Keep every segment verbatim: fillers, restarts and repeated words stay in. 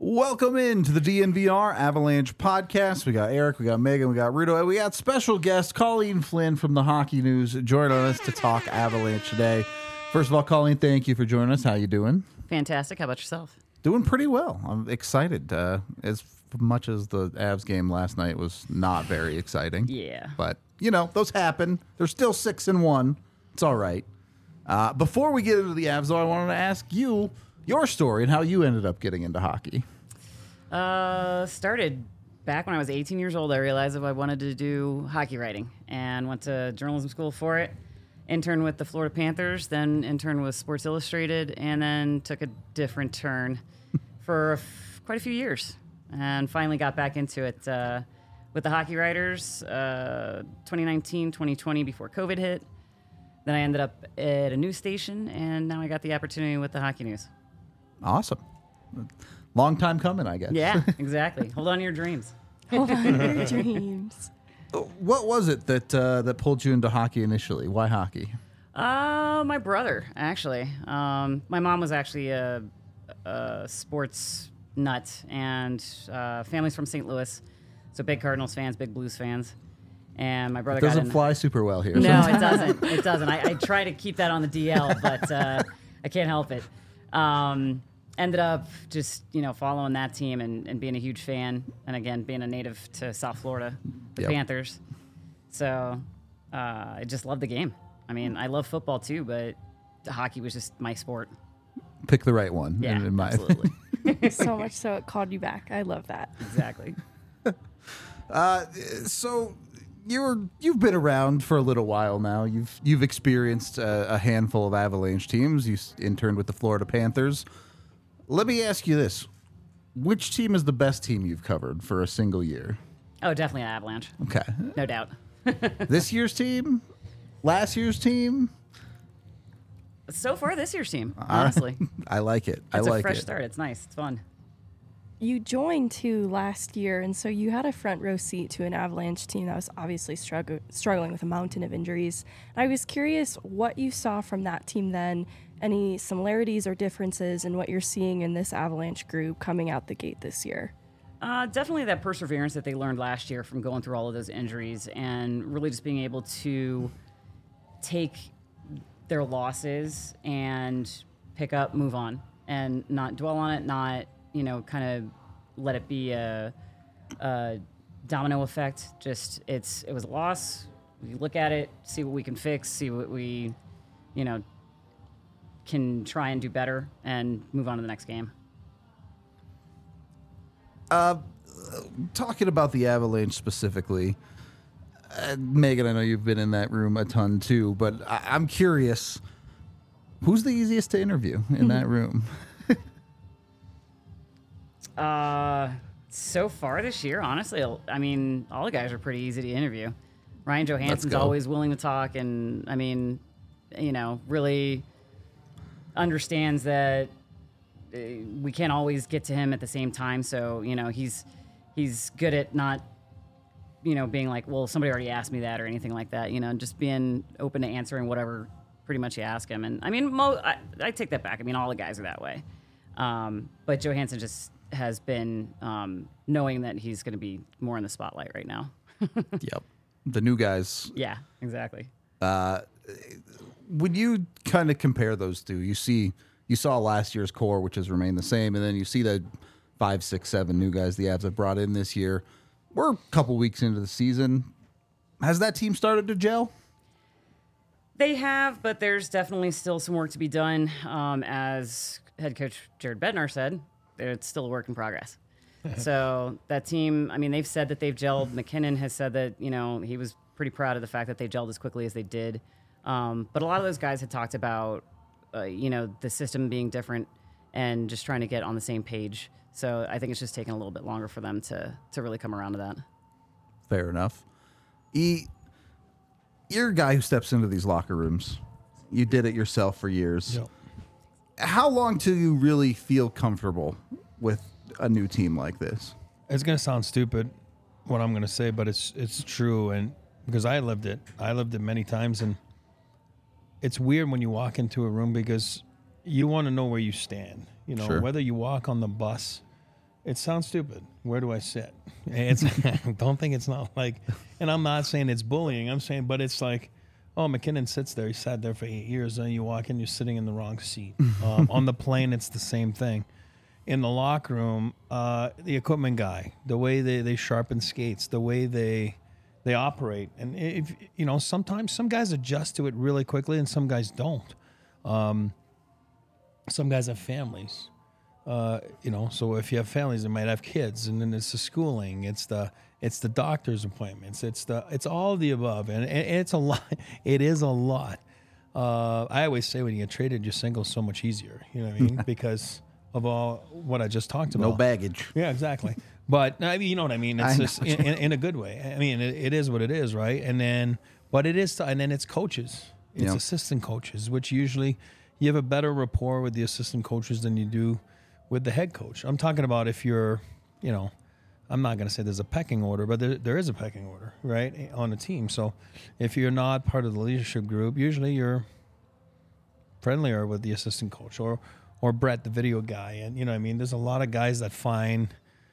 Welcome into the D N V R Avalanche podcast. We got Eric, we got Megan, we got Rudo, and we got special guest Colleen Flynn from the Hockey News joining us to talk Avalanche today. First of all, Colleen, thank you for joining us. How you doing? Fantastic. How about yourself? Doing pretty well. I'm excited. Uh, as much as the Avs game last night was not very exciting. Yeah. But, you know, those happen. They're still six and one. It's all right. Uh, before we get into the Avs, though, I wanted to ask you your story and how you ended up getting into hockey. Uh, started back when I was eighteen years old. I realized that I wanted to do hockey writing and went to journalism school for it. Interned with the Florida Panthers, then interned with Sports Illustrated, and then took a different turn for a f- quite a few years. And finally got back into it uh, with the Hockey Writers uh, twenty nineteen, twenty twenty before COVID hit. Then I ended up at a news station, and now I got the opportunity with the Hockey News. Awesome. Long time coming, I guess. Yeah, exactly. Hold on to your dreams. Hold on to your dreams. What was it that uh, that pulled you into hockey initially? Why hockey? Uh, my brother, actually. Um, my mom was actually a, a sports nut, and uh, family's from Saint Louis, so big Cardinals fans, big Blues fans. And my brother It doesn't got in. fly super well here. No, it doesn't. It doesn't. I, I try to keep that on the D L, but uh, I can't help it. Um, ended up just, you know, following that team and, and being a huge fan. And again, being a native to South Florida, the Yep. Panthers. So uh, I just love the game. I mean, I love football too, but hockey was just my sport. Pick the right one. Yeah, in, in my absolutely. So much so it called you back. I love that. Exactly. Uh, so you're you've been around for a little while now. You've you've experienced a, a handful of Avalanche teams. You s- interned with the Florida Panthers. Let me ask you this: which team is the best team you've covered for a single year? Oh, definitely an Avalanche. Okay, No doubt. this year's team, last year's team. So far, this year's team, honestly. I like it. I It's like a fresh it. start. It's nice. It's fun. You joined too last year, and so you had a front row seat to an Avalanche team that was obviously strugg- struggling with a mountain of injuries. I was curious what you saw from that team then, any similarities or differences in what you're seeing in this Avalanche group coming out the gate this year. Uh, definitely that perseverance that they learned last year from going through all of those injuries and really just being able to take their losses and pick up, move on, and not dwell on it, not, you know, kind of let it be a, a domino effect. Just it's it was a loss. We look at it, see what we can fix, see what we, you know, can try and do better, and move on to the next game. Talking about the Avalanche specifically, uh, Megan, I know you've been in that room a ton too, but I- I'm curious, who's the easiest to interview in that room? Uh, so far this year, honestly, I mean, all the guys are pretty easy to interview. Ryan Johansson's go. always willing to talk, and I mean, you know, really understands that uh, we can't always get to him at the same time. So, you know, he's he's good at not, you know, being like, well, somebody already asked me that or anything like that. You know, just being open to answering whatever pretty much you ask him. And I mean, mo- I, I take that back. I mean, all the guys are that way. Um, but Johansson just has been um, knowing that he's going to be more in the spotlight right now. Yep. The new guys. Yeah, exactly. When you kind of compare those two, you see, you saw last year's core, which has remained the same, and then you see the five, six, seven new guys the Avs have brought in this year. We're a couple weeks into the season. Has that team started to gel? They have, but there's definitely still some work to be done. Um, as head coach Jared Bednar said, it's still a work in progress. So that team, I mean, they've said that they've gelled. McKinnon has said that, you know, he was pretty proud of the fact that they gelled as quickly as they did. Um, but a lot of those guys had talked about, uh, you know, the system being different and just trying to get on the same page. So I think it's just taking a little bit longer for them to to really come around to that. Fair enough. E, you're a guy who steps into these locker rooms. You did it yourself for years. Yep. How long till you really feel comfortable with a new team like this? It's gonna sound stupid what I'm gonna say, but it's it's true, and because I lived it, I lived it many times, and it's weird when you walk into a room because you want to know where you stand. You know, Sure. whether you walk on the bus it sounds stupid. Where do I sit? It's don't think it's not like, and I'm not saying it's bullying. I'm saying, but it's like, oh, MacKinnon sits there. He sat there for eight years. Then you walk in, you're sitting in the wrong seat. Um, on the plane, it's the same thing. In the locker room, uh, the equipment guy, the way they, they sharpen skates, the way they they operate, and if you know, sometimes some guys adjust to it really quickly, and some guys don't. Um, some guys have families. Uh, you know, so if you have families, they might have kids, and then it's the schooling, it's the it's the doctor's appointments, it's the it's all of the above, and, and it's a lot. It is a lot. Uh, I always say when you get traded, your single's so much easier. You know what I mean? Because of all what I just talked about. No baggage. Yeah, exactly. But I mean, you know what I mean. It's I just in, in, in a good way. I mean, it, it is what it is, right? And then, but it is, and then it's coaches, it's Yep. assistant coaches, which usually you have a better rapport with the assistant coaches than you do with the head coach. I'm talking about if you're, you know, I'm not going to say there's a pecking order, but there, there is a pecking order, right, on a team. So if you're not part of the leadership group, usually you're friendlier with the assistant coach or or Brett, the video guy. And, you know what I mean? There's a lot of guys that find,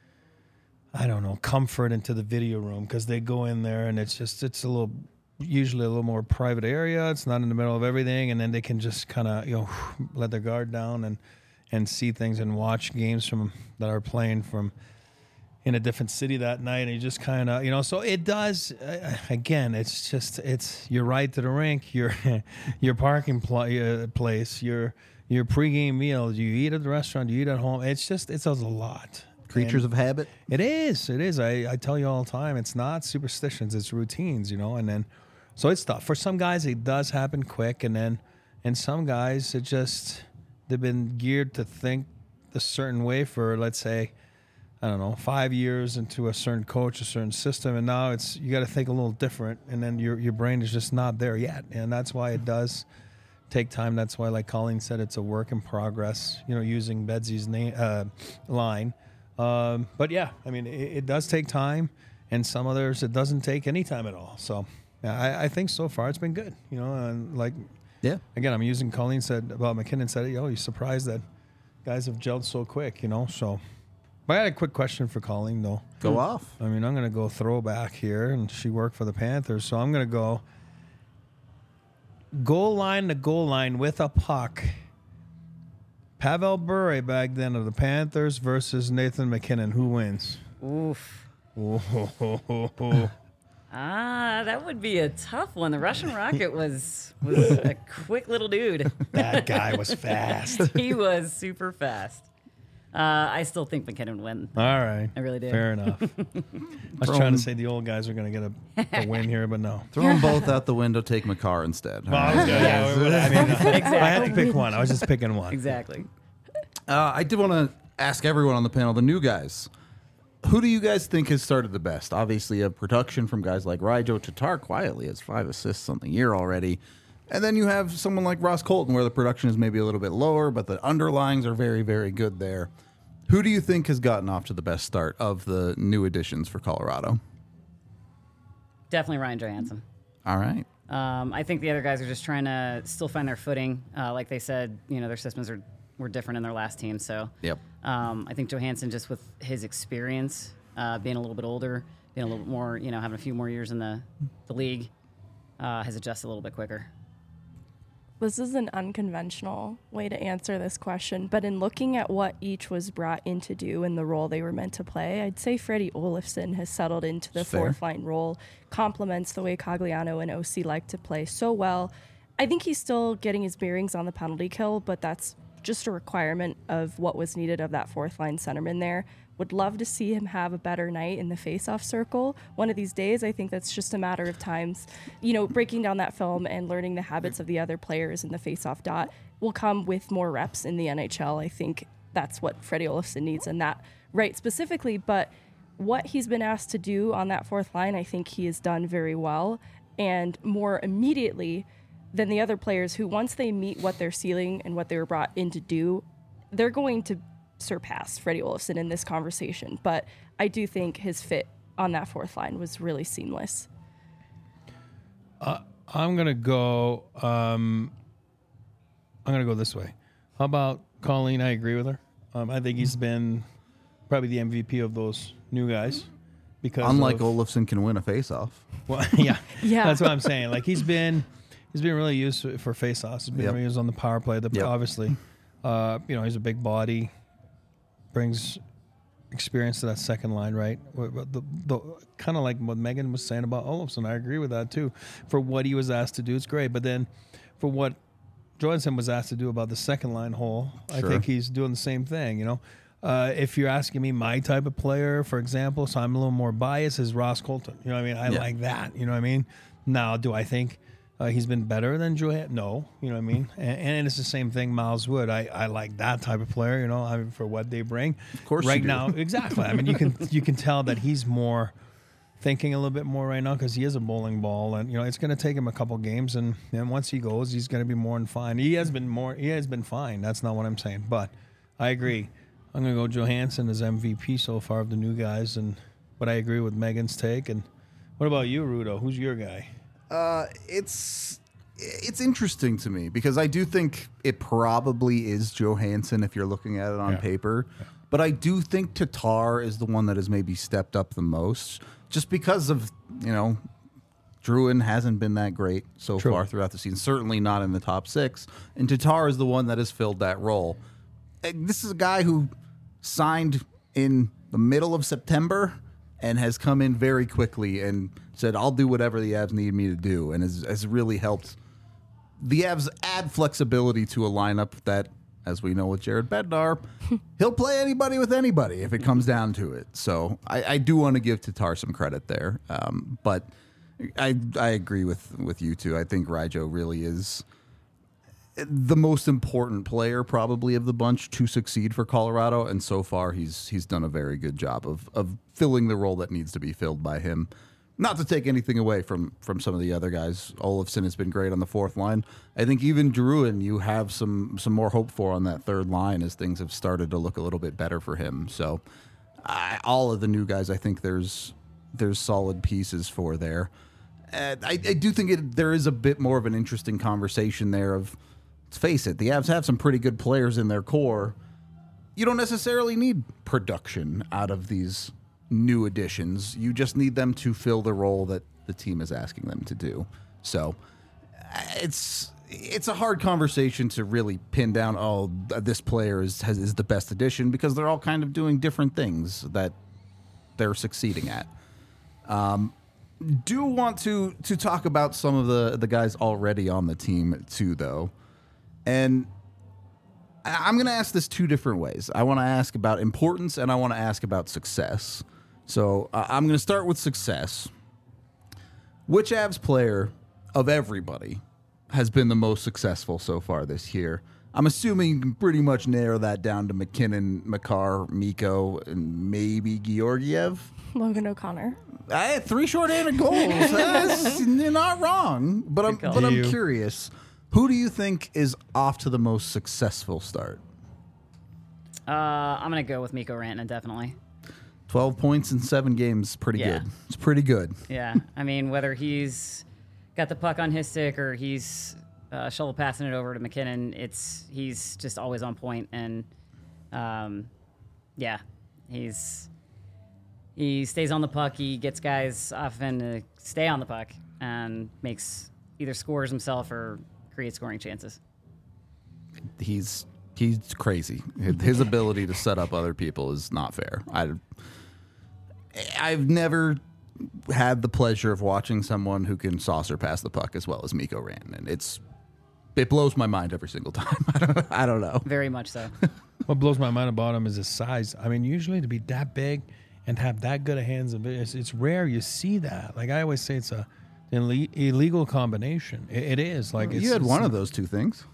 I don't know, comfort into the video room because they go in there and it's just, it's a little, usually a little more private area. It's not in the middle of everything. And then they can just kind of, you know, let their guard down and, and see things and watch games from that are playing from in a different city that night. And you just kind of, you know, so it does, uh, again, it's just, it's your ride to the rink, your your parking pl- uh, place, your your pregame meal, do you eat at the restaurant, do you eat at home? It's just, it's a lot. Creatures And of habit. It is, it is. I, I tell you all the time, it's not superstitions, it's routines, you know, and then, so it's tough. For some guys, it does happen quick. And then, and some guys, it just, they've been geared to think a certain way for, let's say, I don't know, five years into a certain coach, a certain system, and now it's you got to think a little different, and then your your brain is just not there yet, and that's why it does take time. That's why, like Colleen said, it's a work in progress. You know, using Bedsy's name uh, line, um, but yeah, I mean, it, it does take time, and some others it doesn't take any time at all. So, yeah, I, I think so far it's been good. You know, and like Yeah. again, I'm using Colleen said about MacKinnon said, yo, you're surprised that guys have gelled so quick. You know, so. But I got a quick question for Colleen, though. Go off. I mean, I'm going to go throwback here, and she worked for the Panthers, so I'm going to go goal line to goal line with a puck. Pavel Bure back then of the Panthers versus Nathan MacKinnon. Who wins? Oof. Oh, Ah, that would be a tough one. The Russian Rocket was was a quick little dude. that guy was fast. He was super fast. Uh, I still think MacKinnon would win. All right. I really do. Fair enough. I was Throw trying him- to say the old guys are going to get a, a win here, but no. Throw them both out the window. Take McCarr instead. Well, I was gonna- yeah, I mean, Exactly. I had to pick one. I was just picking one. Exactly. Uh, I did want to ask everyone on the panel, the new guys. Who do you guys think has started the best? Obviously, a production from guys like Raijo. Tatar quietly has five assists on the year already. And then you have someone like Ross Colton, where the production is maybe a little bit lower, but the underlyings are very, very good there. Who do you think has gotten off to the best start of the new additions for Colorado? Definitely Ryan Johansson. All right. Um, I think the other guys are just trying to still find their footing. Uh, like they said, you know, their systems are were different in their last team. So Yep. um, I think Johansson, just with his experience, uh, being a little bit older, being a little bit more, you know, having a few more years in the, the league, uh, has adjusted a little bit quicker. This is an unconventional way to answer this question, but in looking at what each was brought in to do and the role they were meant to play, I'd say Freddie Olofsson has settled into the Fair. fourth line role, complements the way Cogliano and O C like to play so well. I think he's still getting his bearings on the penalty kill, but that's just a requirement of what was needed of that fourth line centerman there. Would love to see him have a better night in the face-off circle one of these days. I think that's just a matter of times. You know, breaking down that film and learning the habits of the other players in the face-off dot will come with more reps in the N H L. I think that's what Freddie Olofsson needs, and that right specifically. But what he's been asked to do on that fourth line, I think he has done very well, and more immediately than the other players who, once they meet what their ceiling and what they were brought in to do, they're going to surpass Freddie Olofsson in this conversation. But I do think his fit on that fourth line was really seamless. Uh, I'm gonna go. Um, I'm gonna go this way. How about Colleen? I agree with her. Um, I think he's been probably the M V P of those new guys. Because Unlike of, Olofsson can win a faceoff. well, yeah, Yeah. that's what I'm saying. Like he's been, he's been really used for, for face-offs. He's been Yep. really used on the power play. The, Yep. Obviously, uh, you know, he's a big body, brings experience to that second line, right? The, the, kind of like what Megan was saying about Olofsson. I agree with that too. For what he was asked to do, it's great. But then, for what Johansson was asked to do about the second line hole, I Sure. think he's doing the same thing. You know. Uh, if you're asking me my type of player, for example, so I'm a little more biased, is Ross Colton. You know what I mean? I Yeah. like that. You know what I mean? Now, do I think uh, he's been better than Joe? No. You know what I mean? And, and it's the same thing, Miles Wood. I, I like that type of player, you know, I mean, for what they bring. Of course Right you do. now, exactly. I mean, you can you can tell that he's more thinking a little bit more right now because he is a bowling ball. And, you know, it's going to take him a couple games. And then once he goes, he's going to be more than fine. He has been more, he has been fine. That's not what I'm saying. But I agree. I'm going to go Johansson as M V P so far of the new guys, and but I agree with Megan's take. And what about you, Rudo? Who's your guy? Uh, it's it's interesting to me because I do think it probably is Johansson if you're looking at it on Yeah. paper, but I do think Tatar is the one that has maybe stepped up the most, just because of you know, Druin hasn't been that great so True. far throughout the season. Certainly not in the top six, and Tatar is the one that has filled that role. And this is a guy who signed in the middle of September and has come in very quickly and said, I'll do whatever the Avs need me to do, and has, has really helped the Avs add flexibility to a lineup that, as we know with Jared Bednar, he'll play anybody with anybody if it comes down to it. So I, I do want to give Tatar some credit there. Um, but I I agree with, with you two. I think Ryjo really is the most important player probably of the bunch to succeed for Colorado, and so far he's he's done a very good job of of filling the role that needs to be filled by him. Not to take anything away from from some of the other guys. Olofsson has been great on the fourth line. I think even Druin, you have some some more hope for on that third line as things have started to look a little bit better for him. So I, all of the new guys, I think there's there's solid pieces for there. And I, I do think it, there is a bit more of an interesting conversation there of, let's face it, the Avs have some pretty good players in their core. You don't necessarily need production out of these new additions. You just need them to fill the role that the team is asking them to do. So it's it's a hard conversation to really pin down, oh, this player is has, is the best addition, because they're all kind of doing different things that they're succeeding at. Um, do want to to talk about some of the, the guys already on the team too, though. And I- I'm going to ask this two different ways. I want to ask about importance, and I want to ask about success. So uh, I'm going to start with success. Which Avs player of everybody has been the most successful so far this year? I'm assuming you can pretty much narrow that down to McKinnon, Makar, Mikko, and maybe Georgiev. Logan O'Connor. I had three short-handed goals. That's, you're not wrong, but I'm Good call. but I'm You. curious. Who do you think is off to the most successful start? Uh, I'm gonna go with Mikko Rantanen, definitely. Twelve points in seven games, pretty Yeah. good. It's pretty good. Yeah, I mean, whether he's got the puck on his stick or he's uh, shovel passing it over to McKinnon, it's he's just always on point, and um, yeah, he's he stays on the puck. He gets guys often to stay on the puck and makes either scores himself or creates scoring chances. He's he's crazy. His ability to set up other people is not fair. I I've never had the pleasure of watching someone who can saucer pass the puck as well as Mikko Rantanen. It's it blows my mind every single time. I don't I don't know. Very much so. What blows my mind about him is his size. I mean, usually to be that big and have that good of hands, it's, it's rare you see that. Like I always say, it's a an ille- illegal combination. It, it is. Like it's, You had it's- one of those two things.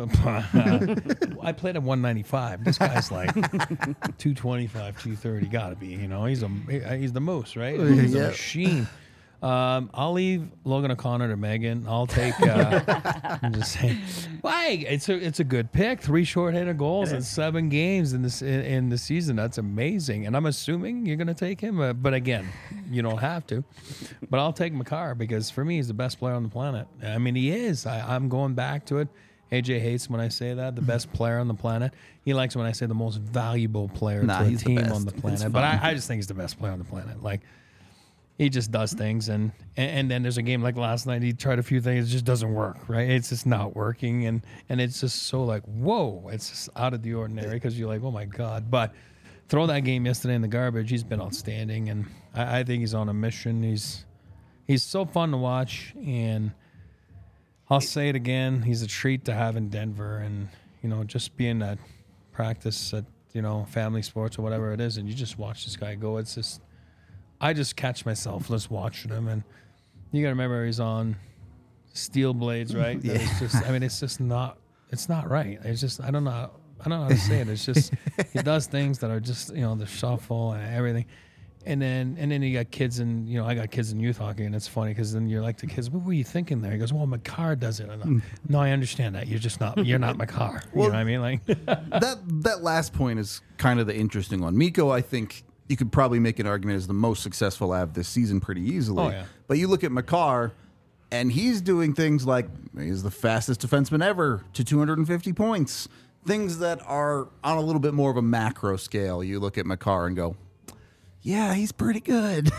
I played at one ninety-five. This guy's like two twenty-five, two thirty. Got to be. You know, he's a he's the moose, right? He's Yeah. a machine. Um, I'll leave Logan O'Connor to Megan. I'll take. Uh, I'm just saying. Why? It's a it's a good pick. Three short-handed goals in seven games in this in, in the season. That's amazing. And I'm assuming you're going to take him. Uh, but again, you don't have to. But I'll take Makar because for me, he's the best player on the planet. I mean, he is. I, I'm going back to it. A J hates when I say that, the best player on the planet. He likes when I say the most valuable player Nah, to a he's the team best. on the It's planet. But fine. I, I just think he's the best player on the planet. Like, he just does things, and, and and then there's a game like last night. He tried a few things, it just doesn't work, right? It's just not working, and and it's just so like, whoa, it's just out of the ordinary because you're like, oh my god. But throw that game yesterday in the garbage. He's been outstanding, and I, I think he's on a mission. He's he's so fun to watch, and I'll say it again, he's a treat to have in Denver, and you know, just being at practice at you know family sports or whatever it is, and you just watch this guy go. It's just. I just catch myself just watching him, and you got to remember he's on steel blades, right? Yeah. It's just, I mean, it's just not, it's not right. It's just, I don't know, how, I don't know how to say it. It's just, he does things that are just, you know, the shuffle and everything, and then, and then you got kids in, you know, I got kids in youth hockey, and it's funny because then you're like the kids, what were you thinking there? He goes, well, Makar does it. And I'm, no, I understand that. You're just not, you're not Makar. You Well, know what I mean? Like, that that last point is kind of the interesting one. Mikko, I think you could probably make an argument as the most successful Av this season pretty easily. Oh, yeah. But you look at Makar, and he's doing things like he's the fastest defenseman ever to two hundred fifty points. Things that are on a little bit more of a macro scale. You look at Makar and go, yeah, he's pretty good.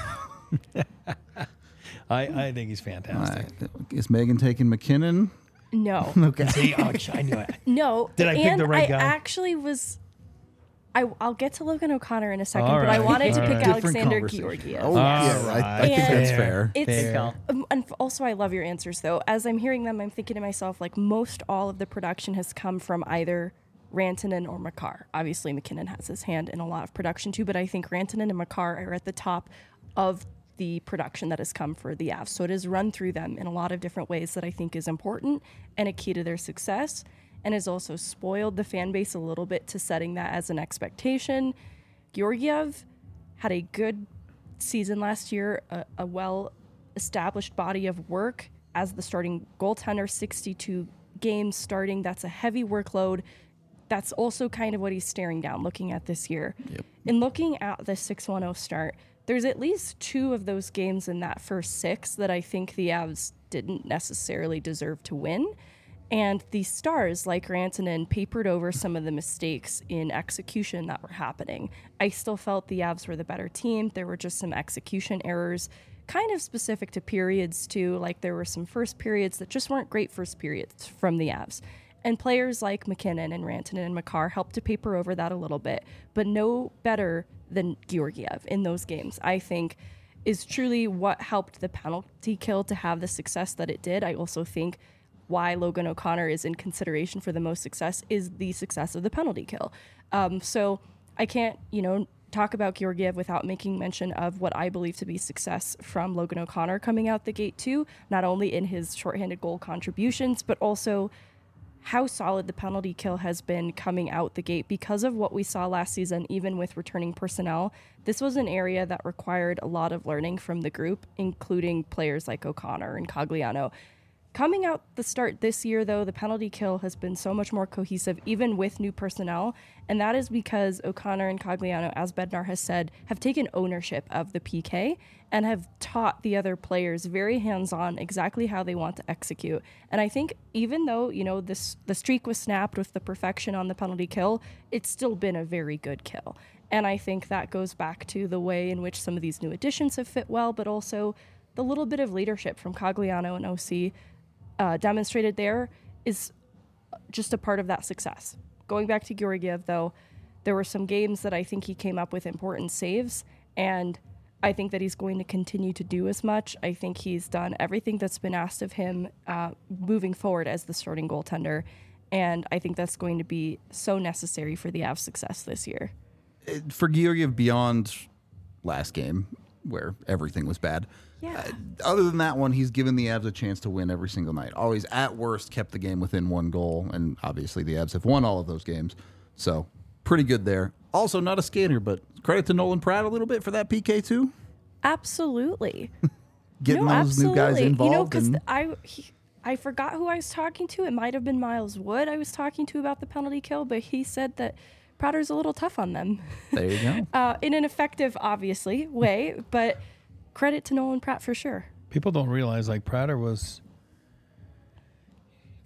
I, I think he's fantastic. Uh, is Megan taking McKinnon? No. Okay. See, oh, I knew it. No. Did I pick and the right I guy? actually was. I, I'll get to Logan O'Connor in a second, All but I right. wanted to All pick right. Different Alexander conversation. Georgiev. Oh, Yes. yeah, I, I think And- that's fair. It's Fair. call. um, and f- also I love your answers though. As I'm hearing them, I'm thinking to myself like most all of the production has come from either Rantanen or Makar. Obviously McKinnon has his hand in a lot of production too, but I think Rantanen and Makar are at the top of the production that has come for the Avs. So it has run through them in a lot of different ways that I think is important and a key to their success, and has also spoiled the fan base a little bit to setting that as an expectation. Georgiev had a good season last year, a, a well-established body of work as the starting goaltender, sixty-two games starting. That's a heavy workload. That's also kind of what he's staring down looking at this year. Yep. In looking at the six one oh start, there's at least two of those games in that first six that I think the Avs didn't necessarily deserve to win. And the Stars, like Rantanen, papered over some of the mistakes in execution that were happening. I still felt the Avs were the better team. There were just some execution errors, kind of specific to periods too. Like there were some first periods that just weren't great first periods from the Avs. And players like McKinnon and Rantanen and Makar helped to paper over that a little bit, but no better than Georgiev in those games, I think, is truly what helped the penalty kill to have the success that it did. I also think why Logan O'Connor is in consideration for the most success is the success of the penalty kill. Um, so I can't, you know, talk about Georgiev without making mention of what I believe to be success from Logan O'Connor coming out the gate too, not only in his shorthanded goal contributions, but also how solid the penalty kill has been coming out the gate because of what we saw last season, even with returning personnel. This was an area that required a lot of learning from the group, including players like O'Connor and Cogliano. Coming out the start this year, though, the penalty kill has been so much more cohesive, even with new personnel. And that is because O'Connor and Cogliano, as Bednar has said, have taken ownership of the P K and have taught the other players very hands-on exactly how they want to execute. And I think even though, you know, this the streak was snapped with the perfection on the penalty kill, it's still been a very good kill. And I think that goes back to the way in which some of these new additions have fit well, but also the little bit of leadership from Cogliano and O C Uh, demonstrated there is just a part of that success. Going back to Georgiev, though, there were some games that I think he came up with important saves, and I think that he's going to continue to do as much. I think he's done everything that's been asked of him uh, moving forward as the starting goaltender, and I think that's going to be so necessary for the Avs' success this year. For Georgiev, beyond last game, where everything was bad, Yeah. Uh, other than that one, he's given the Avs a chance to win every single night. Always, at worst, kept the game within one goal, and obviously the Avs have won all of those games. So, pretty good there. Also, not a skater, but credit to Nolan Pratt a little bit for that P K too. Absolutely. Getting no, those new guys absolutely. involved. You know, because and, I he, I forgot who I was talking to. It might have been Miles Wood I was talking to about the penalty kill, but he said that Prater's a little tough on them. there you go. Uh, in an effective, obviously, way, but credit to Nolan Pratt for sure. People don't realize, like, Prater was,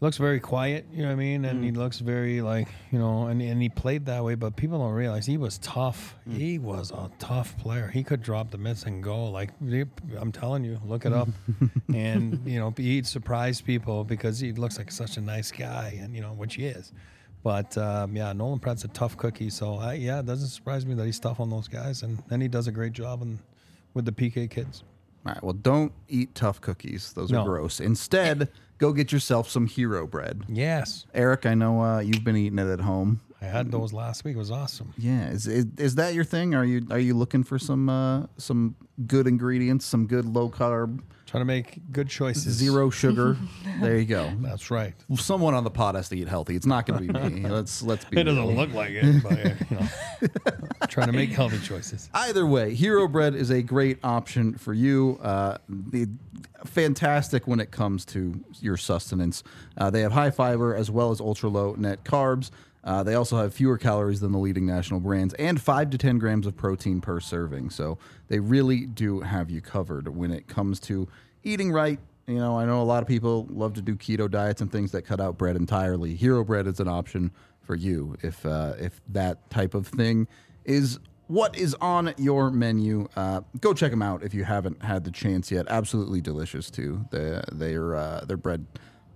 looks very quiet, you know what I mean? And mm. he looks very like, you know, and, and he played that way, but people don't realize he was tough. Mm. He was a tough player. He could drop the mitts and go. Like, I'm telling you, look it up. And, you know, he'd surprise people because he looks like such a nice guy, and, you know, which he is. But, um, yeah, Nolan Pratt's a tough cookie. So, I, yeah, it doesn't surprise me that he's tough on those guys. And then he does a great job in, with the P K kids. All right, well, don't eat tough cookies. Those No. are gross. Instead, go get yourself some Hero Bread. Yes. Eric, I know uh, you've been eating it at home. I had those last week. It was awesome. Yeah, is is, is that your thing? Are you are you looking for some uh, some good ingredients, some good low carb, Trying to make good choices. zero sugar? There you go. That's right. Someone on the pod has to eat healthy. It's not going to be me. Let's let's be. It doesn't real. look like it, but, you know, trying to make healthy choices. Either way, Hero Bread is a great option for you. Uh, the, fantastic when it comes to your sustenance. Uh, they have high fiber as well as ultra low net carbs. Uh, they also have fewer calories than the leading national brands and five to ten grams of protein per serving. So they really do have you covered when it comes to eating right. You know, I know a lot of people love to do keto diets and things that cut out bread entirely. Hero Bread is an option for you if uh, if that type of thing is what is on your menu. Uh, go check them out if you haven't had the chance yet. Absolutely delicious too. They they're uh, their bread.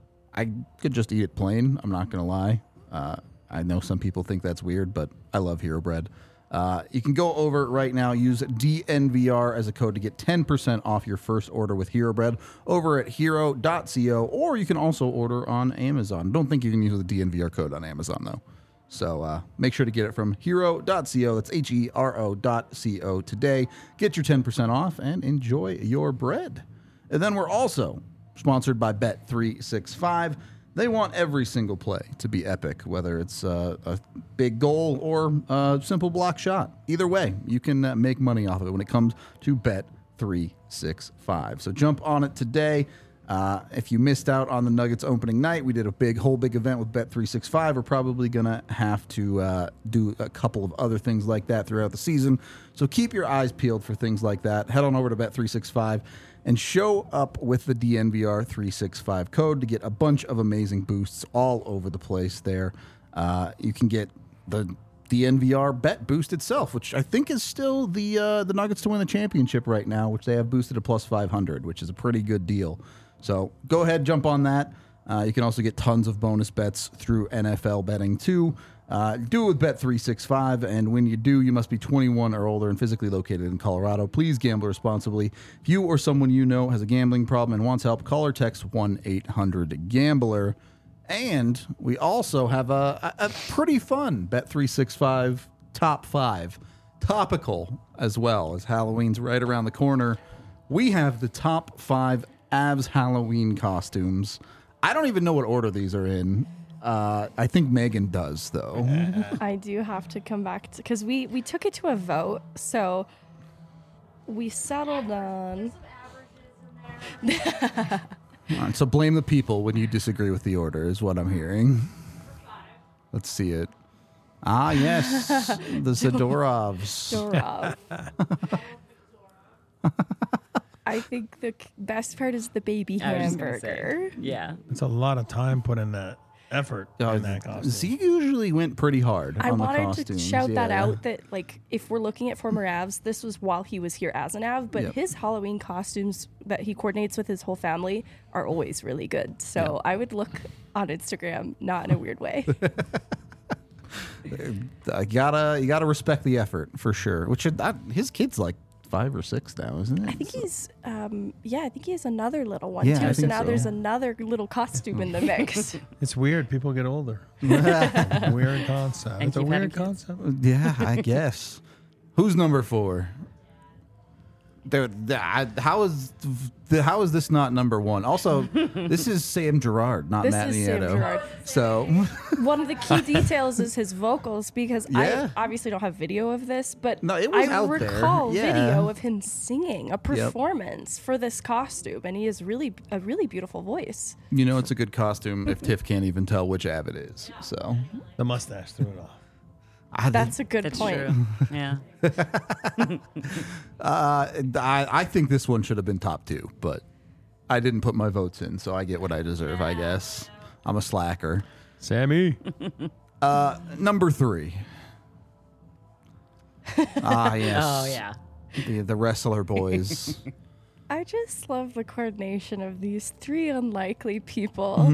I could just eat it plain. I'm not gonna lie. Uh, I know some people think that's weird, but I love Hero Bread. Uh, you can go over right now, use D N V R as a code to get ten percent off your first order with Hero Bread over at hero dot co, or you can also order on Amazon. Don't think you can use the D N V R code on Amazon, though. So uh, make sure to get it from hero dot co. That's H E R O dot C O today. Get your ten percent off and enjoy your bread. And then we're also sponsored by Bet three sixty-five. They want every single play to be epic, whether it's uh, a big goal or a simple block shot. Either way, you can uh, make money off of it when it comes to Bet three sixty-five. So jump on it today. Uh, if you missed out on the Nuggets opening night, we did a big, whole big event with Bet three sixty-five. We're probably going to have to uh, do a couple of other things like that throughout the season. So keep your eyes peeled for things like that. Head on over to Bet three sixty-five and show up with the D N V R three sixty-five code to get a bunch of amazing boosts all over the place there. Uh, you can get the D N V R bet boost itself, which I think is still the uh, the Nuggets to win the championship right now, which they have boosted to plus five hundred, which is a pretty good deal. So go ahead, jump on that. Uh, you can also get tons of bonus bets through N F L betting too. Uh, do it with Bet three sixty-five, and when you do, you must be twenty-one or older and physically located in Colorado. Please gamble responsibly. If you or someone you know has a gambling problem and wants help, call or text one eight hundred gambler. And we also have a, a, a pretty fun Bet three sixty-five top five, topical as well, as Halloween's right around the corner. We have the top five Avs Halloween costumes. I don't even know what order these are in. Uh, I think Megan does, though. I do have to come back to, because we, we took it to a vote, so we settled on. All right, so blame the people when you disagree with the order, is what I'm hearing. Let's see it. Ah, yes, the Zadorovs. Zadorov. I think the c- best part is the baby I was just gonna hamburger. say, yeah. It's a lot of time put in that effort Uh, in that costume. Z usually went pretty hard I on the wanted costumes. to shout that yeah. out that, like, if we're looking at former Avs, this was while he was here as an Av, but Yep. his Halloween costumes that he coordinates with his whole family are always really good. So I would look on Instagram, not in a weird way. I gotta, you gotta respect the effort for sure. Which are, that, his kid's like five or six now, isn't it? I think he's, um, yeah, I think he has another little one Yeah, too. I So think now so. there's another little costume in the mix. It's weird. People get older. Weird concept. And It's a keep weird having kids. concept. Yeah, I guess. Who's number four? Dude, th- I- how is th- how is this not number one? Also, this is Sam Gerard, not This Matt is Sam Nieto. Gerard. So, One of the key details is his vocals, because Yeah. I obviously don't have video of this, but No, it was I out there. recall Yeah. video of him singing a performance for this costume, and he has really a really beautiful voice. you know, it's a good costume if Tiff can't even tell which Av it is. So, The mustache threw it off. I, That's a good That's point. true. Yeah. uh, I, I think this one should have been top two, but I didn't put my votes in, so I get what I deserve, I guess. I'm a slacker. Sammy. Uh, number three. Ah, yes. Oh yeah. The, the wrestler boys. I just love the coordination of these three unlikely people.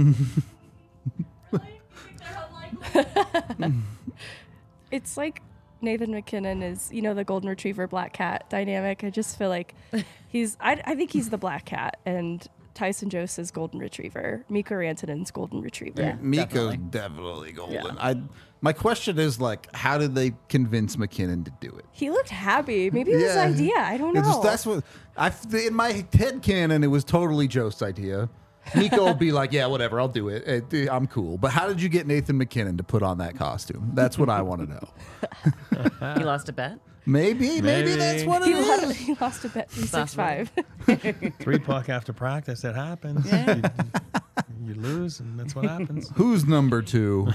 It's like Nathan MacKinnon is, you know, the golden retriever black cat dynamic. I just feel like he's, I, I think he's the black cat, and Tyson Joseph's golden retriever, Mikko Rantanen's golden retriever. Yeah. Miko's definitely. definitely golden. Yeah. I my question is like, how did they convince McKinnon to do it? He looked happy. Maybe it was his idea. I don't know. It's just, that's what I in my head canon. It was totally Joe's idea. Nico will be like, yeah, whatever, I'll do it. it. I'm cool. But how did you get Nathan MacKinnon to put on that costume? That's what I want to know. He lost a bet. Maybe, maybe, Maybe. that's what it he, is. lost, he lost a bet three six five. Three puck after practice. That happens. You, you lose, and that's what happens. Who's number two?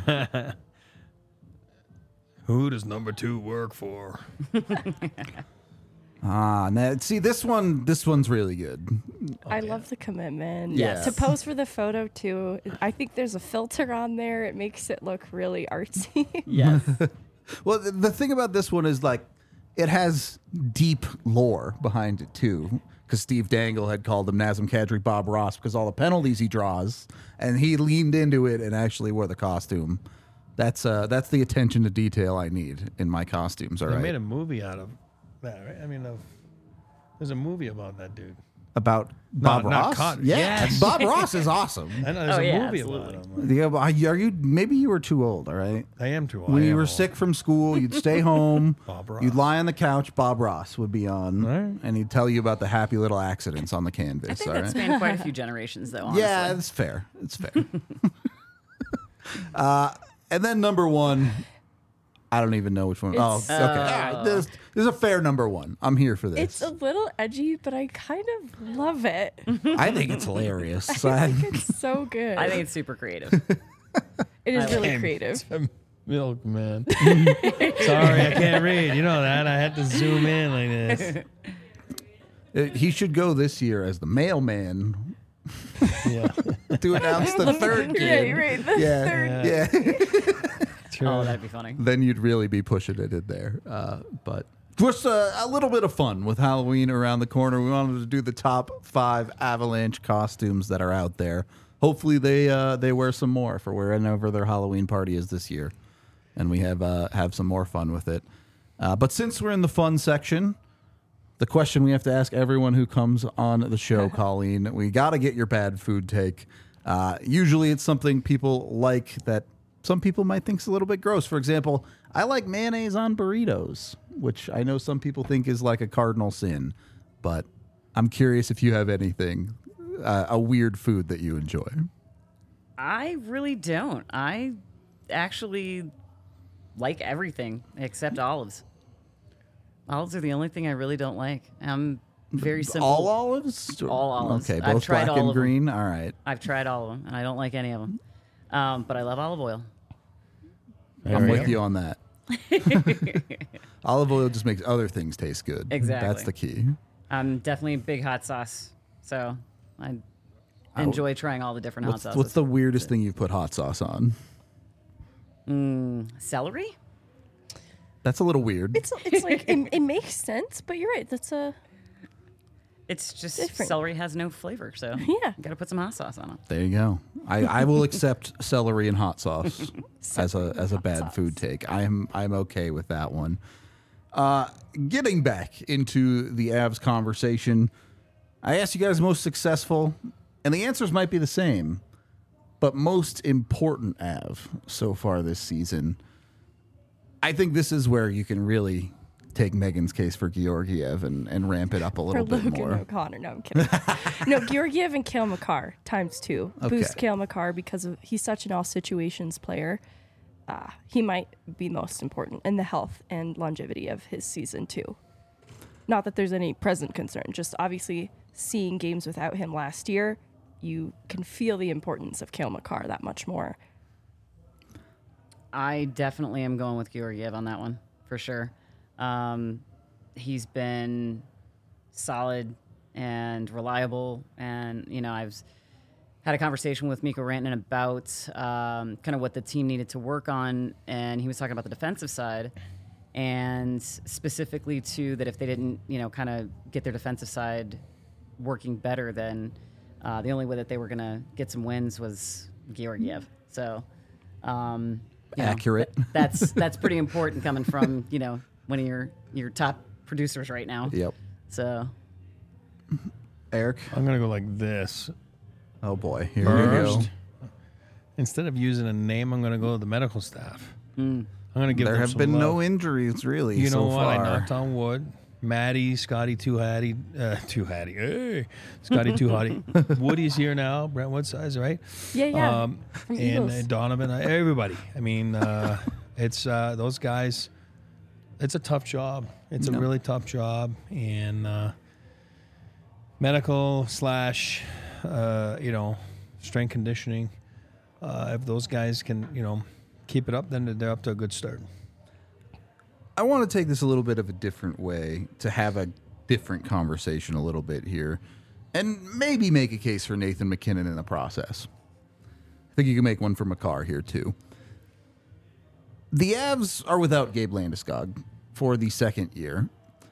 Who does number two work for? Ah, now, see this one. This one's really good. I love the commitment. Yes. To pose for the photo too. I think there's a filter on there. It makes it look really artsy. Yes. Well, the, the thing about this one is like, it has deep lore behind it too. Because Steve Dangle had called him Nazem Kadri Bob Ross because all the penalties he draws, and he leaned into it and actually wore the costume. That's uh, that's the attention to detail I need in my costumes. All They right. made a movie out of that, right? I mean, of, there's a movie about that dude. About Bob not Ross. Cotton. Yeah, Yes. Bob Ross is awesome. I know there's Oh, a yeah, movie absolutely. about him. Yeah, but are you, are you maybe you were too old? All right. I am too old. When I you am were old. sick from school, you'd stay home. Bob Ross. You'd lie on the couch. Bob Ross would be on, Right. and he'd tell you about the happy little accidents on the canvas. I think all that right? spanned quite a few generations, though. Honestly. Yeah, it's fair. It's fair. uh, and then number one, I don't even know which one. Oh, It's- okay. All right, this, this is a fair number one. I'm here for It's this. a little edgy, but I kind of love it. I think it's hilarious. I I- think it's so good. I think it's super creative. it is I really Damn, creative. it's a Milkman. Sorry, I can't read. You know that. I had to zoom in like this. Uh, he should go this year as the mailman Yeah. to announce the third kid. Right, right. The Yeah, third. yeah. True. Oh, that'd be funny. Then you'd really be pushing it in there. Uh, but just uh, a little bit of fun with Halloween around the corner. We wanted to do the top five Avalanche costumes that are out there. Hopefully they uh, they wear some more for wherever their Halloween party is this year, and we have uh, have some more fun with it. Uh, but since we're in the fun section, the question we have to ask everyone who comes on the show, Colleen, we got to get your bad food take. Uh, usually it's something people like that some people might think is a little bit gross. For example, I like mayonnaise on burritos, which I know some people think is like a cardinal sin. But I'm curious if you have anything, uh, a weird food that you enjoy. I really don't. I actually like everything except olives. Olives are the only thing I really don't like. I'm very simple. All olives? All olives. Okay, I've both tried black all and of them. green. All right. I've tried all of them, and I don't like any of them. Um, but I love olive oil. There I'm we with go. you on that. Olive oil just makes other things taste good. Exactly. That's the key. I'm definitely a big hot sauce, so I enjoy trying all the different hot What's, sauces. what's the weirdest thing you've put hot sauce on? Celery? That's a little weird. It's it's like it, it makes sense, but you're right. That's a It's just Different. celery has no flavor, so Yeah. got to put some hot sauce on it. There you go. I, I will accept celery and hot sauce as a as a bad food take. I'm I'm okay with that one. Uh, getting back into the Avs conversation, I asked you guys most successful, and the answers might be the same, but most important Av so far this season. I think this is where you can really take Megan's case for Georgiev and, and ramp it up a for little bit Logan more. O'Connor. No, I'm kidding. no, Georgiev and Kale McCarr times two. Boost Okay. Kale McCarr because of he's such an all situations player. Uh, he might be most important in the health and longevity of his season too. Not that there's any present concern, just obviously seeing games without him last year, you can feel the importance of Kale McCarr that much more. I definitely am going with Georgiev on that one for sure. Um, he's been solid and reliable, and you know I've had a conversation with Mikko Rantanen about um, kind of what the team needed to work on, and he was talking about the defensive side, and specifically too that if they didn't, you know, kind of get their defensive side working better, then uh, the only way that they were going to get some wins was Georgiev. So, um, you know, Accurate. th- that's that's pretty important coming from, you know, one of your your top producers right now. Yep. So, Eric? I'm going to go like this. Oh, boy. Here we go. First, instead of using a name, I'm going to go to the medical staff. I'm going to give There them have some been love. no injuries, really, You know so what? I far. knocked on wood. Maddie, Scotty, Too Hattie, uh, Too Hattie, hey, Scotty, Too Hattie. Woody's here now. Brent Woodsize, right? Yeah, yeah. Um, From and Eagles. uh, Donovan, uh, everybody. I mean, uh, it's uh, those guys. It's a tough job. It's a No. really tough job, and uh, medical slash, uh, you know, strength conditioning. Uh, if those guys can, you know, keep it up, then they're up to a good start. I want to take this a little bit of a different way to have a different conversation a little bit here and maybe make a case for Nathan MacKinnon in the process. I think you can make one for Makar here too. The Avs are without Gabe Landeskog for the second year.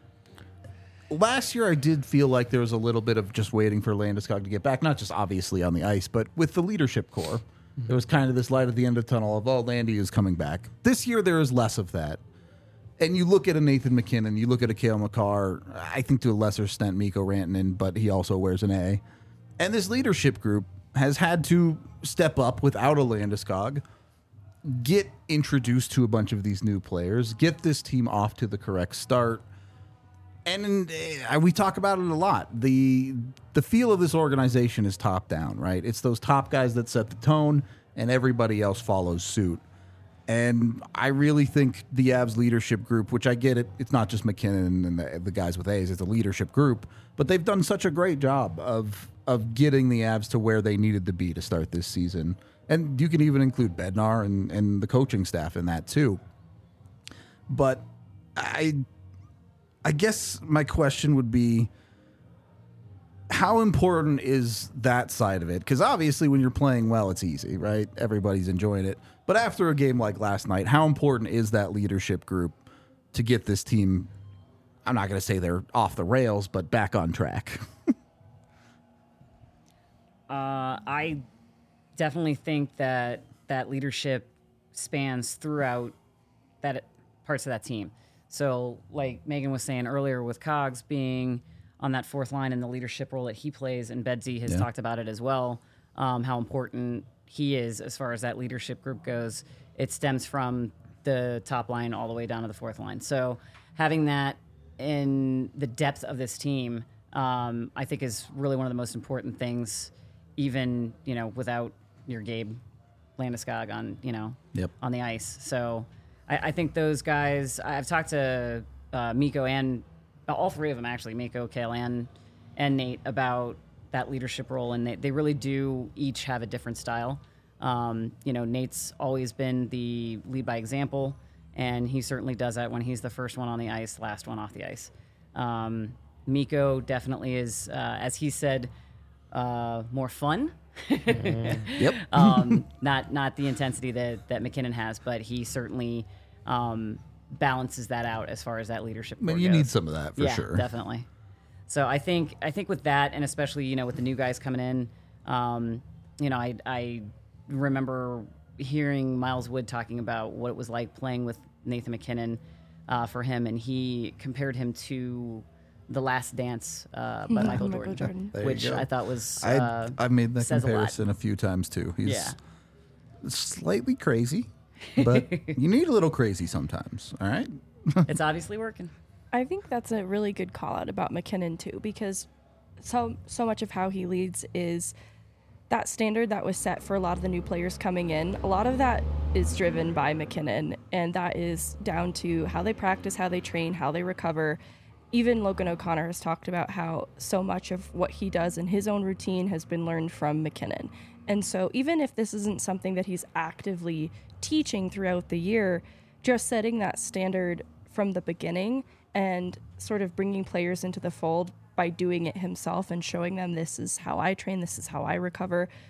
Last year, I did feel like there was a little bit of just waiting for Landeskog to get back, not just obviously on the ice, but with the leadership core. There was kind of this light at the end of the tunnel of, oh, Landy is coming back. This year, there is less of that. And you look at a Nathan MacKinnon, you look at a Cale Makar, I think to a lesser extent Mikko Rantanen, but he also wears an A. And this leadership group has had to step up without a Landeskog, get introduced to a bunch of these new players, get this team off to the correct start. And uh, we talk about it a lot. The the feel of this organization is top down, right? It's those top guys that set the tone, and everybody else follows suit. And I really think the Avs leadership group, which I get it, it's not just MacKinnon and the, the guys with A's, it's a leadership group, but they've done such a great job of of getting the Avs to where they needed to be to start this season. And you can even include Bednar and, and the coaching staff in that too. But I I guess my question would be, how important is that side of it? Because obviously when you're playing well, it's easy, right? Everybody's enjoying it. But after a game like last night, how important is that leadership group to get this team, I'm not going to say they're off the rails, but back on track? uh, I definitely think that that leadership spans throughout that parts of that team. So, like Megan was saying earlier, with Cogs being on that fourth line and the leadership role that he plays, and Bedsy has Yeah. talked about it as well, um, how important he is as far as that leadership group goes. It stems from the top line all the way down to the fourth line. So, having that in the depth of this team, um, I think is really one of the most important things, even, you know, without your Gabe Landeskog on, you know, Yep. on the ice. So I, I think those guys, I've talked to uh, Mikko and all three of them actually, Mikko, Cale, and, and Nate, about that leadership role. And they, they really do each have a different style. Um, you know, Nate's always been the lead by example, and he certainly does that when he's the first one on the ice, last one off the ice. Um, Mikko definitely is, uh, as he said, uh, more fun. Yep. um, not not the intensity that, that MacKinnon has, but he certainly um, balances that out as far as that leadership. I mean, core you goes. need some of that for yeah, sure. definitely. So I think I think with that, and especially, you know, with the new guys coming in, um, you know, I I remember hearing Miles Wood talking about what it was like playing with Nathan MacKinnon uh, for him, and he compared him to The Last Dance uh, by Michael, Michael Jordan, Jordan. There you which go. I thought was I uh, I've made that says a lot. comparison a, few times too. He's Yeah. slightly crazy, but you need a little crazy sometimes. All right. it's obviously working. I think that's a really good call out about MacKinnon too, because so so much of how he leads is that standard that was set for a lot of the new players coming in. A lot of that is driven by MacKinnon, and that is down to how they practice, how they train, how they recover. Even Logan O'Connor has talked about how so much of what he does in his own routine has been learned from MacKinnon. And so even if this isn't something that he's actively teaching throughout the year, just setting that standard from the beginning and sort of bringing players into the fold by doing it himself and showing them, this is how I train, this is how I recover.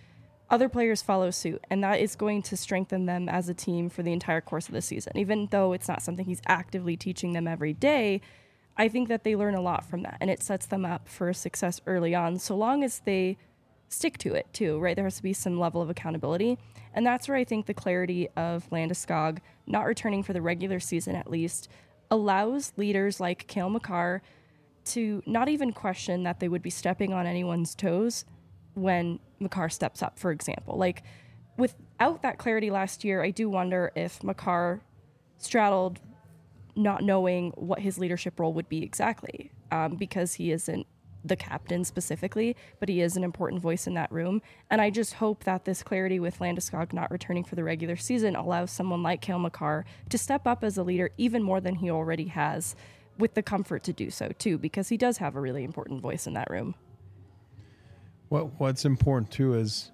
other players follow suit, and that is going to strengthen them as a team for the entire course of the season. Even though it's not something he's actively teaching them every day, I think that they learn a lot from that, and it sets them up for success early on, so long as they stick to it too, right? There has to be some level of accountability, and that's where I think the clarity of Landeskog not returning for the regular season at least allows leaders like Cale Makar to not even question that they would be stepping on anyone's toes when Makar steps up, for example. Like, without that clarity last year, I do wonder if Makar straddled not knowing what his leadership role would be exactly, um, because he isn't the captain specifically, but he is an important voice in that room. And I just hope that this clarity with Landeskog not returning for the regular season allows someone like Cale Makar to step up as a leader even more than he already has, with the comfort to do so too, because he does have a really important voice in that room. What What's important too is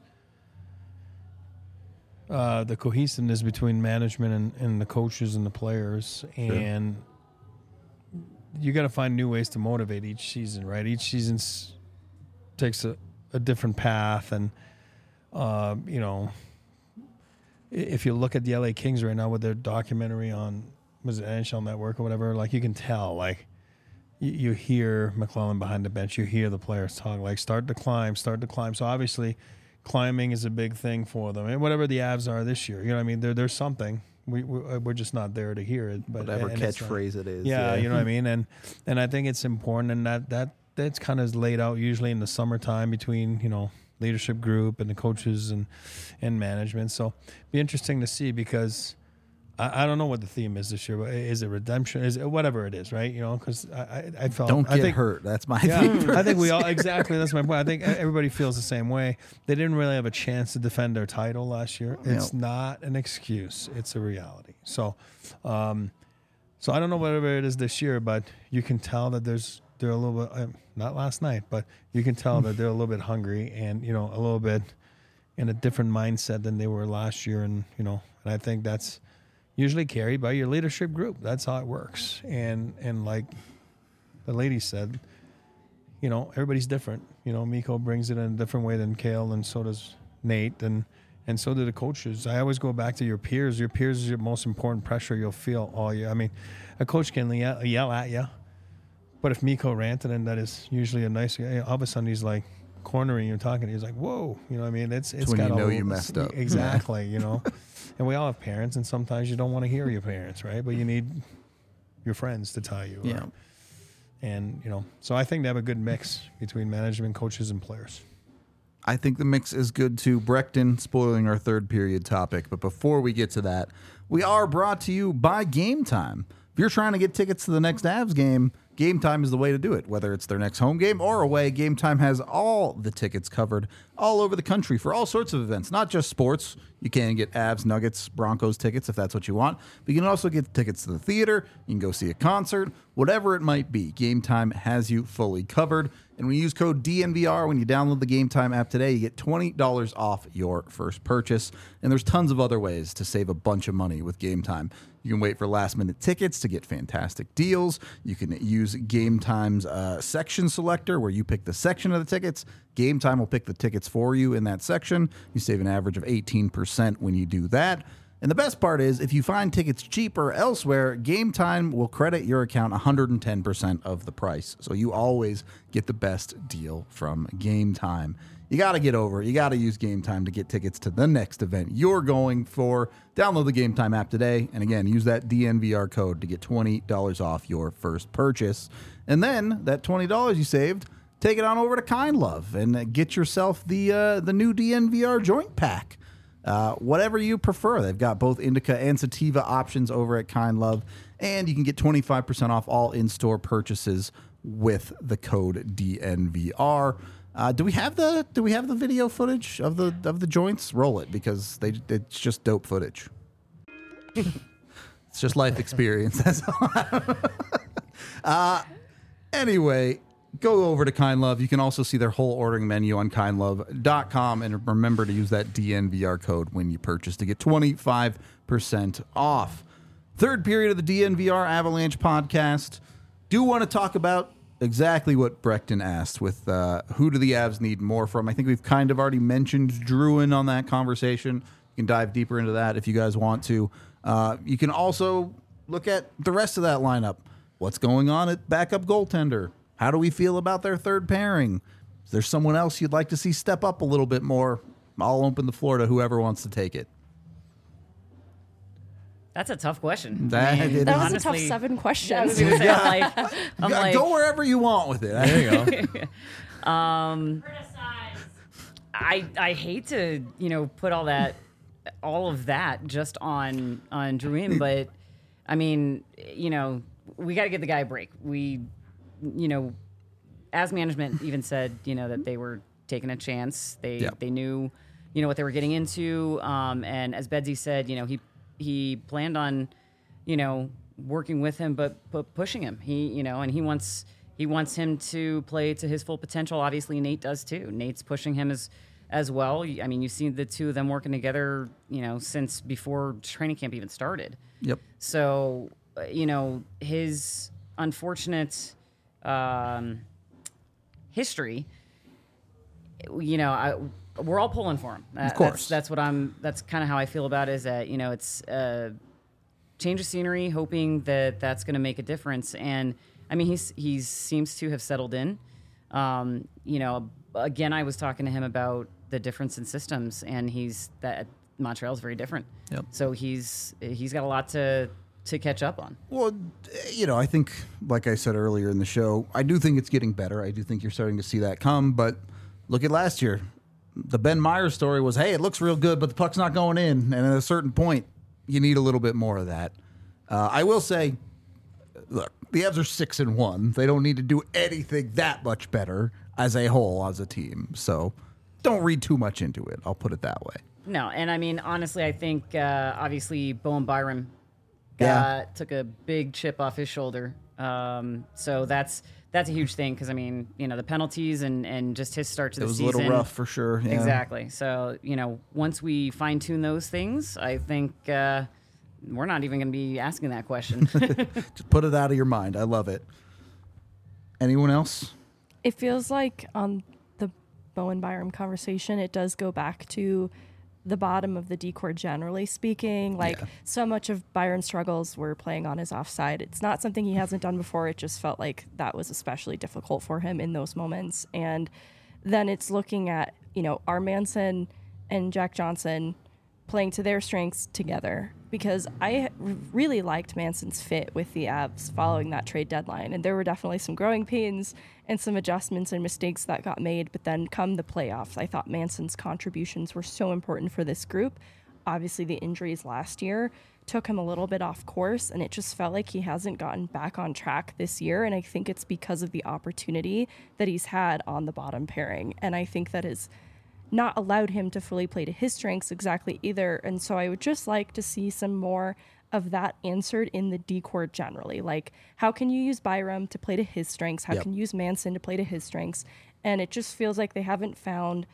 uh, the cohesiveness between management and, and the coaches and the players, and you got to find new ways to motivate each season, right? Each season takes a, a different path, and uh, you know, if you look at the L A Kings right now with their documentary on, was it N H L Network or whatever, like you can tell, like you, you hear McClellan behind the bench, you hear the players talk, like start to climb, start to climb. So obviously, climbing is a big thing for them, and whatever the Avs are this year, you know what I mean? There, there's something. We, we we're just not there to hear it, but Whatever and it's catchphrase it is. Yeah, Yeah. you know what I mean, and and I think it's important, and that that that's kind of laid out usually in the summertime between, you know, leadership group and the coaches and and management. So be interesting to see, because I, I don't know what the theme is this year, but is it redemption? Is it whatever it is, right? You know, because I, I I felt Don't I get think, hurt. That's my yeah, thing. for I think this we all year. exactly. That's my point. I think everybody feels the same way. They didn't really have a chance to defend their title last year. It's No. not an excuse. It's a reality. So, um, so I don't know whatever it is this year, but you can tell that there's they're a little bit uh, not last night, but you can tell that they're a little bit hungry and, you know, a little bit in a different mindset than they were last year, and you know, and I think that's usually carried by your leadership group. That's how it works. And and like the lady said, you know, everybody's different. You know, Mikko brings it in a different way than Cale, and so does Nate, and and so do the coaches. I always go back to your peers. Your peers is your most important pressure you'll feel all year. I mean, a coach can yell, yell at you, but if Mikko ranted, and that is usually a nice guy, all of a sudden he's like cornering you, talking. He's like, "Whoa," you know what I mean? It's it's when got you know a, you messed up. Exactly, you know. And we all have parents, and sometimes you don't want to hear your parents, right? But you need your friends to tell you. Yeah. Or, and, you know, so I think they have a good mix between management, coaches, and players. I think the mix is good too. Breckton spoiling our third period topic. But before we get to that, we are brought to you by Game Time. If you're trying to get tickets to the next Avs game, Game Time is the way to do it. Whether it's their next home game or away, Game Time has all the tickets covered all over the country for all sorts of events, not just sports. You can get Avs, Nuggets, Broncos tickets if that's what you want. But you can also get tickets to the theater. You can go see a concert, whatever it might be. Game Time has you fully covered. And when you use code D N V R when you download the Game Time app today, you get twenty dollars off your first purchase. And there's tons of other ways to save a bunch of money with Game Time. You can wait for last minute tickets to get fantastic deals. You can use Game Time's uh, section selector where you pick the section of the tickets. Game Time will pick the tickets for you in that section. You save an average of eighteen percent when you do that. And the best part is, if you find tickets cheaper elsewhere, Game Time will credit your account one hundred ten percent of the price. So you always get the best deal from Game Time. You got to get over it. You got to use Game Time to get tickets to the next event you're going for. Download the Game Time app today. And again, use that D N V R code to get twenty dollars off your first purchase. And then that twenty dollars you saved, take it on over to Kind Love and get yourself the uh, the new D N V R joint pack. Uh, whatever you prefer. They've got both indica and sativa options over at Kind Love, and you can get twenty-five percent off all in-store purchases with the code D N V R. Uh, do we have the Do we have the video footage of the of the joints? Roll it, because they it's just dope footage. It's just life experience. That's all. uh, anyway. Go over to Kind Love. You can also see their whole ordering menu on kind love dot com. And remember to use that D N V R code when you purchase to get twenty-five percent off. Third period of the D N V R Avalanche podcast. Do want to talk about exactly what Breckton asked with uh, who do the Avs need more from. I think we've kind of already mentioned Druin on that conversation. You can dive deeper into that if you guys want to. Uh, you can also look at the rest of that lineup. What's going on at backup goaltender? How do we feel about their third pairing? Is there someone else you'd like to see step up a little bit more? I'll open the floor to whoever wants to take it. That's a tough question. That- I mean, it That was honestly, a tough seven I was questions. gonna say, I'm like, I'm Go- like, Go wherever you want with it. There you go. I I hate to you know put all that all of that just on on Druin, but I mean you know we got to give the guy a break. We you know as management even said you know that they were taking a chance. They Yeah. they knew you know what they were getting into, um, and as Bedsy said, you know he he planned on you know working with him, but but pushing him. He you know and he wants. He wants him to play to his full potential. Obviously, Nate does too. Nate's pushing him as as well. I mean, you've seen the two of them working together, you know, since before training camp even started. Yep. So, uh, you know, his unfortunate um, history, you know, I, we're all pulling for him. Uh, Of course. That's, that's what I'm, that's kind of how I feel about it, is that, you know, it's a change of scenery, hoping that that's going to make a difference. And, I mean, he's he seems to have settled in. Um, you know, again, I was talking to him about the difference in systems, and he's that Montreal's very different. Yep. So he's he's got a lot to to catch up on. Well, you know, I think, like I said earlier in the show, I do think it's getting better. I do think you're starting to see that come. But look at last year. The Ben Myers story was, hey, it looks real good, but the puck's not going in. And at a certain point, you need a little bit more of that. Uh, I will say, look, the Avs are six and one. They don't need to do anything that much better as a whole, as a team. So don't read too much into it. I'll put it that way. No, and I mean, honestly, I think uh, obviously Bowen Byram got, Yeah. took a big chip off his shoulder. Um, so that's that's a huge thing, because I mean, you know, the penalties and, and just his start to It the was season. a little rough for sure. Yeah. Exactly. So, you know, once we fine tune those things, I think uh, we're not even going to be asking that question. Just put it out of your mind. I love it. Anyone else? It feels like on the Bowen Byram conversation, it does go back to the bottom of the decor, generally speaking. Like, Yeah. so much of Byram's struggles were playing on his offside. It's not something he hasn't done before. It just felt like that was especially difficult for him in those moments. And then it's looking at, you know, our Manson and Jack Johnson playing to their strengths together, because I really liked Manson's fit with the Avs following that trade deadline. And there were definitely some growing pains and some adjustments and mistakes that got made. But then come the playoffs, I thought Manson's contributions were so important for this group. Obviously, the injuries last year took him a little bit off course, and it just felt like he hasn't gotten back on track this year. And I think it's because of the opportunity that he's had on the bottom pairing. And I think that is not allowed him to fully play to his strengths exactly either. And so I would just like to see some more of that answered in the decor generally. Like, how can you use Byram to play to his strengths? How Yep. can you use Manson to play to his strengths? And it just feels like they haven't found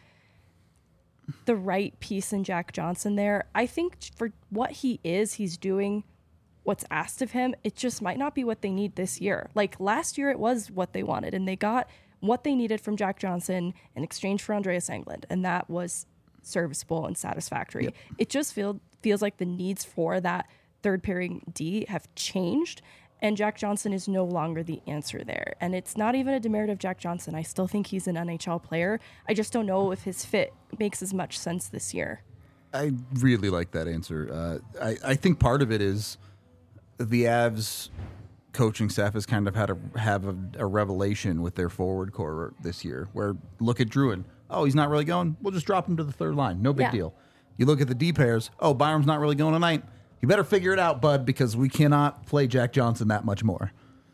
the right piece in Jack Johnson there. I think for what he is, he's doing what's asked of him. It just might not be what they need this year. Like, last year it was what they wanted, and they got what they needed from Jack Johnson in exchange for Andreas Englund, and that was serviceable and satisfactory. Yep. It just feel, feels like the needs for that third pairing D have changed, and Jack Johnson is no longer the answer there. And it's not even a demerit of Jack Johnson. I still think he's an N H L player. I just don't know if his fit makes as much sense this year. I really like that answer. Uh, I, I think part of it is the Avs coaching staff has kind of had a have a, a revelation with their forward core this year, where look at Druin. Oh, he's not really going. We'll just drop him to the third line. No big Yeah. deal. You look at the D pairs. Oh, Byram's not really going tonight. You better figure it out, bud, because we cannot play Jack Johnson that much more.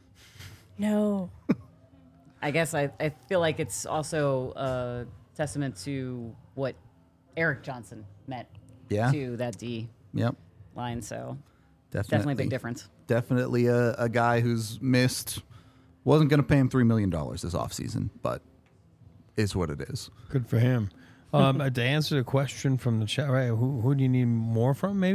No. I guess I, I feel like it's also a testament to what Eric Johnson meant Yeah. to that D Yep. line. So Definitely, definitely a big difference. Definitely a, a guy who's missed. Wasn't going to pay him three million dollars this offseason, but is what it is. Good for him. Um, to answer the question from the chat, right? Who, who do you need more from? Maybe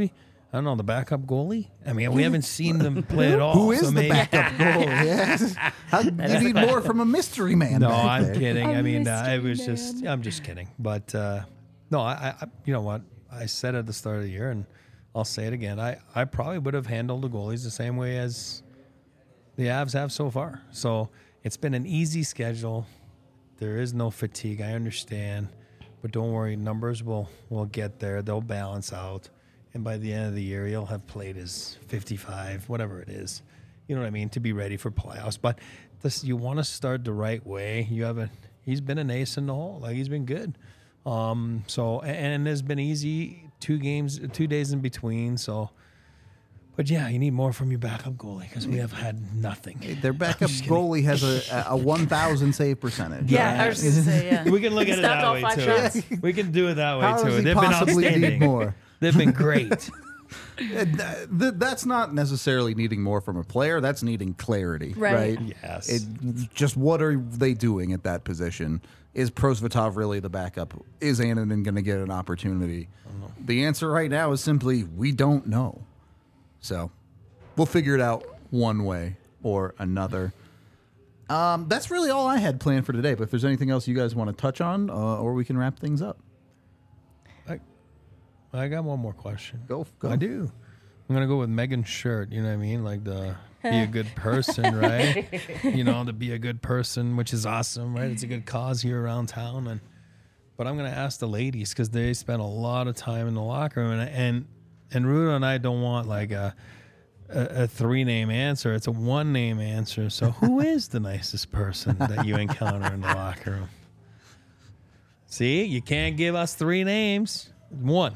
I don't know, the backup goalie? I mean, we haven't seen them play at all. Who is so the maybe- backup goal? Yes. How, you need more from a mystery man. No, back I'm there. kidding. A I mean, uh, it mystery was just, man. I'm just kidding. But uh, no, I, I, you know what? I said at the start of the year, and I'll say it again. I, I probably would have handled the goalies the same way as the Avs have so far. So it's been an easy schedule. There is no fatigue. I understand. But don't worry, numbers will, will get there. They'll balance out. And by the end of the year, he'll have played his fifty-five, whatever it is. You know what I mean? To be ready for playoffs. But this, you want to start the right way. You have a, he's been an ace in the hole. Like, he's been good. Um, so, and it's been easy. Two games, two days in between. So, but yeah, you need more from your backup goalie because we have had nothing. Their backup goalie has a, a one thousand save percentage. Yeah, I was just gonna say, yeah. We can look at it Stopped that all way five too. shots. We can do it that way How too. does he They've been possibly need outstanding. more? They've been great. And th- th- that's not necessarily needing more from a player. That's needing clarity, Right. right? Yes. It, just what are they doing at that position? Is Prosvetov really the backup? Is Annunen going to get an opportunity? The answer right now is simply we don't know. So we'll figure it out one way or another. Um, that's really all I had planned for today. But if there's anything else you guys want to touch on, uh, or we can wrap things up. I, I got one more question. Go, go. I do. I'm gonna go with Megan's shirt. You know what I mean? Like the be a good person, right? You know, to be a good person, which is awesome, right? It's a good cause here around town, and but I'm gonna ask the ladies because they spend a lot of time in the locker room, and and and Ruda and I don't want like a a, a three name answer. It's a one name answer. So who is the nicest person that you encounter in the locker room? See, you can't give us three names. One.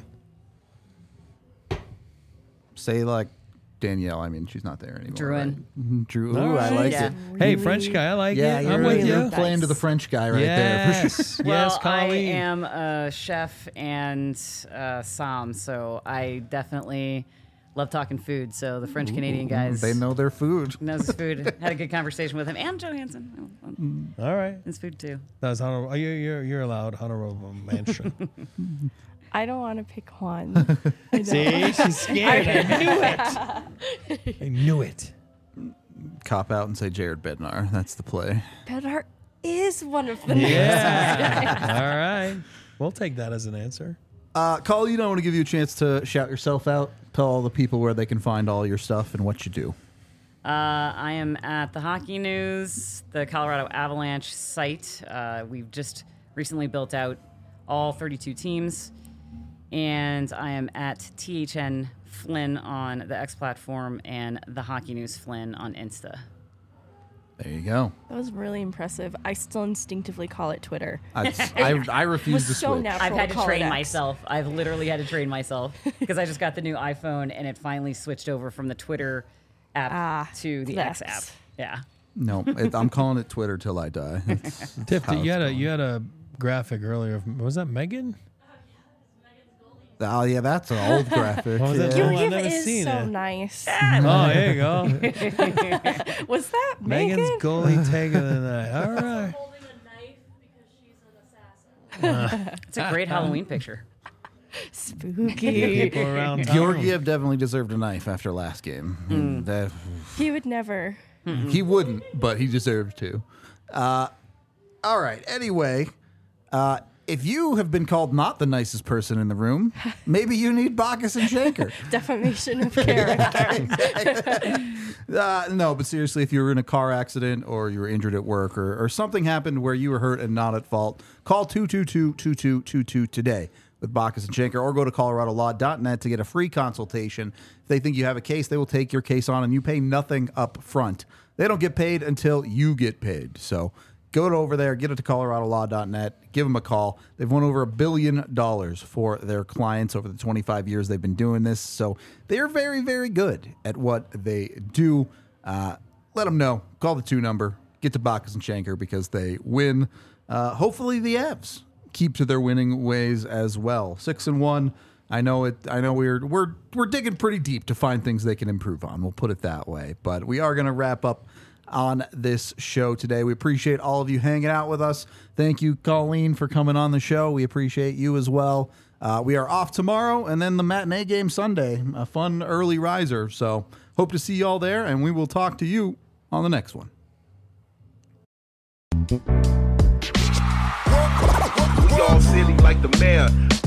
Say like Danielle. I mean, she's not there anymore. Druin. Right? Drew. Ooh, All I right. like Yeah. it. Hey, French guy, I like Yeah, it. you're, I'm with you're you. playing to the French guy right there. For sure. Yes, Well, yes, I Colleen. am a chef and uh, som, so I definitely love talking food. So the French Canadian guys They know their food. knows his food. Had a good conversation with him and Joe Hansen. All right, His food too. that's honorable. Oh, you're you're you're allowed honorable mention. I don't want to pick one. I know. See, she's scared. I knew it. I knew it. Cop out and say Jared Bednar. That's the play. Bednar is one of the names. Yeah. All right, we'll take that as an answer. Uh, Colleen, I want to give you a chance to shout yourself out. Tell all the people where they can find all your stuff and what you do. Uh, I am at the Hockey News, the Colorado Avalanche site. Uh, we've just recently built out all thirty-two teams. And I am at T H N Flynn on the X platform and the Hockey News Flynn on Insta. There you go. That was really impressive. I still instinctively call it Twitter. I, I, I refuse was to so switch. natural. I've had to call it train X. myself. I've literally had to train myself because I just got the new iPhone and it finally switched over from the Twitter app Ah, to the the X app. X. Yeah. No, it, I'm calling it Twitter till I die. It's Tiff, how you it's had a going. you had a graphic earlier. of- Was that Megan? Oh, yeah, that's an old graphic. What was that? Yeah. Oh, Your I've gift never is seen so it. nice. Oh, there you go. Was that Megan's Megan? goalie take of the night. All right. holding a knife because she's an assassin. It's a great Halloween picture. Spooky. People around town. Georgiev definitely deserved a knife after last game. And, uh, He would never. He wouldn't, but he deserved to. Uh, all right. Anyway, uh, if you have been called not the nicest person in the room, maybe you need Bacchus and Shanker. Defamation of character. Uh, no, but seriously, if you were in a car accident or you were injured at work or, or something happened where you were hurt and not at fault, call two two two, two two two two today with Bacchus and Shanker, or go to colorado law dot net to get a free consultation. If they think you have a case, they will take your case on and you pay nothing up front. They don't get paid until you get paid. So go to over there, get it to colorado law dot net, give them a call. They've won over a billion dollars for their clients over the twenty-five years they've been doing this. So they're very, very good at what they do. Uh, let them know. Call the two number. Get to Bacchus and Shanker because they win. Uh, hopefully the Avs keep to their winning ways as well. Six and one. I know it. I know we're we're we're digging pretty deep to find things they can improve on. We'll put it that way. But we are going to wrap up on this show today. We appreciate all of you hanging out with us. Thank you, Colleen, for coming on the show. We appreciate you as well. Uh, we are off tomorrow and then the matinee game Sunday, a fun early riser. So hope to see you all there, and we will talk to you on the next one. We all silly like the mayor.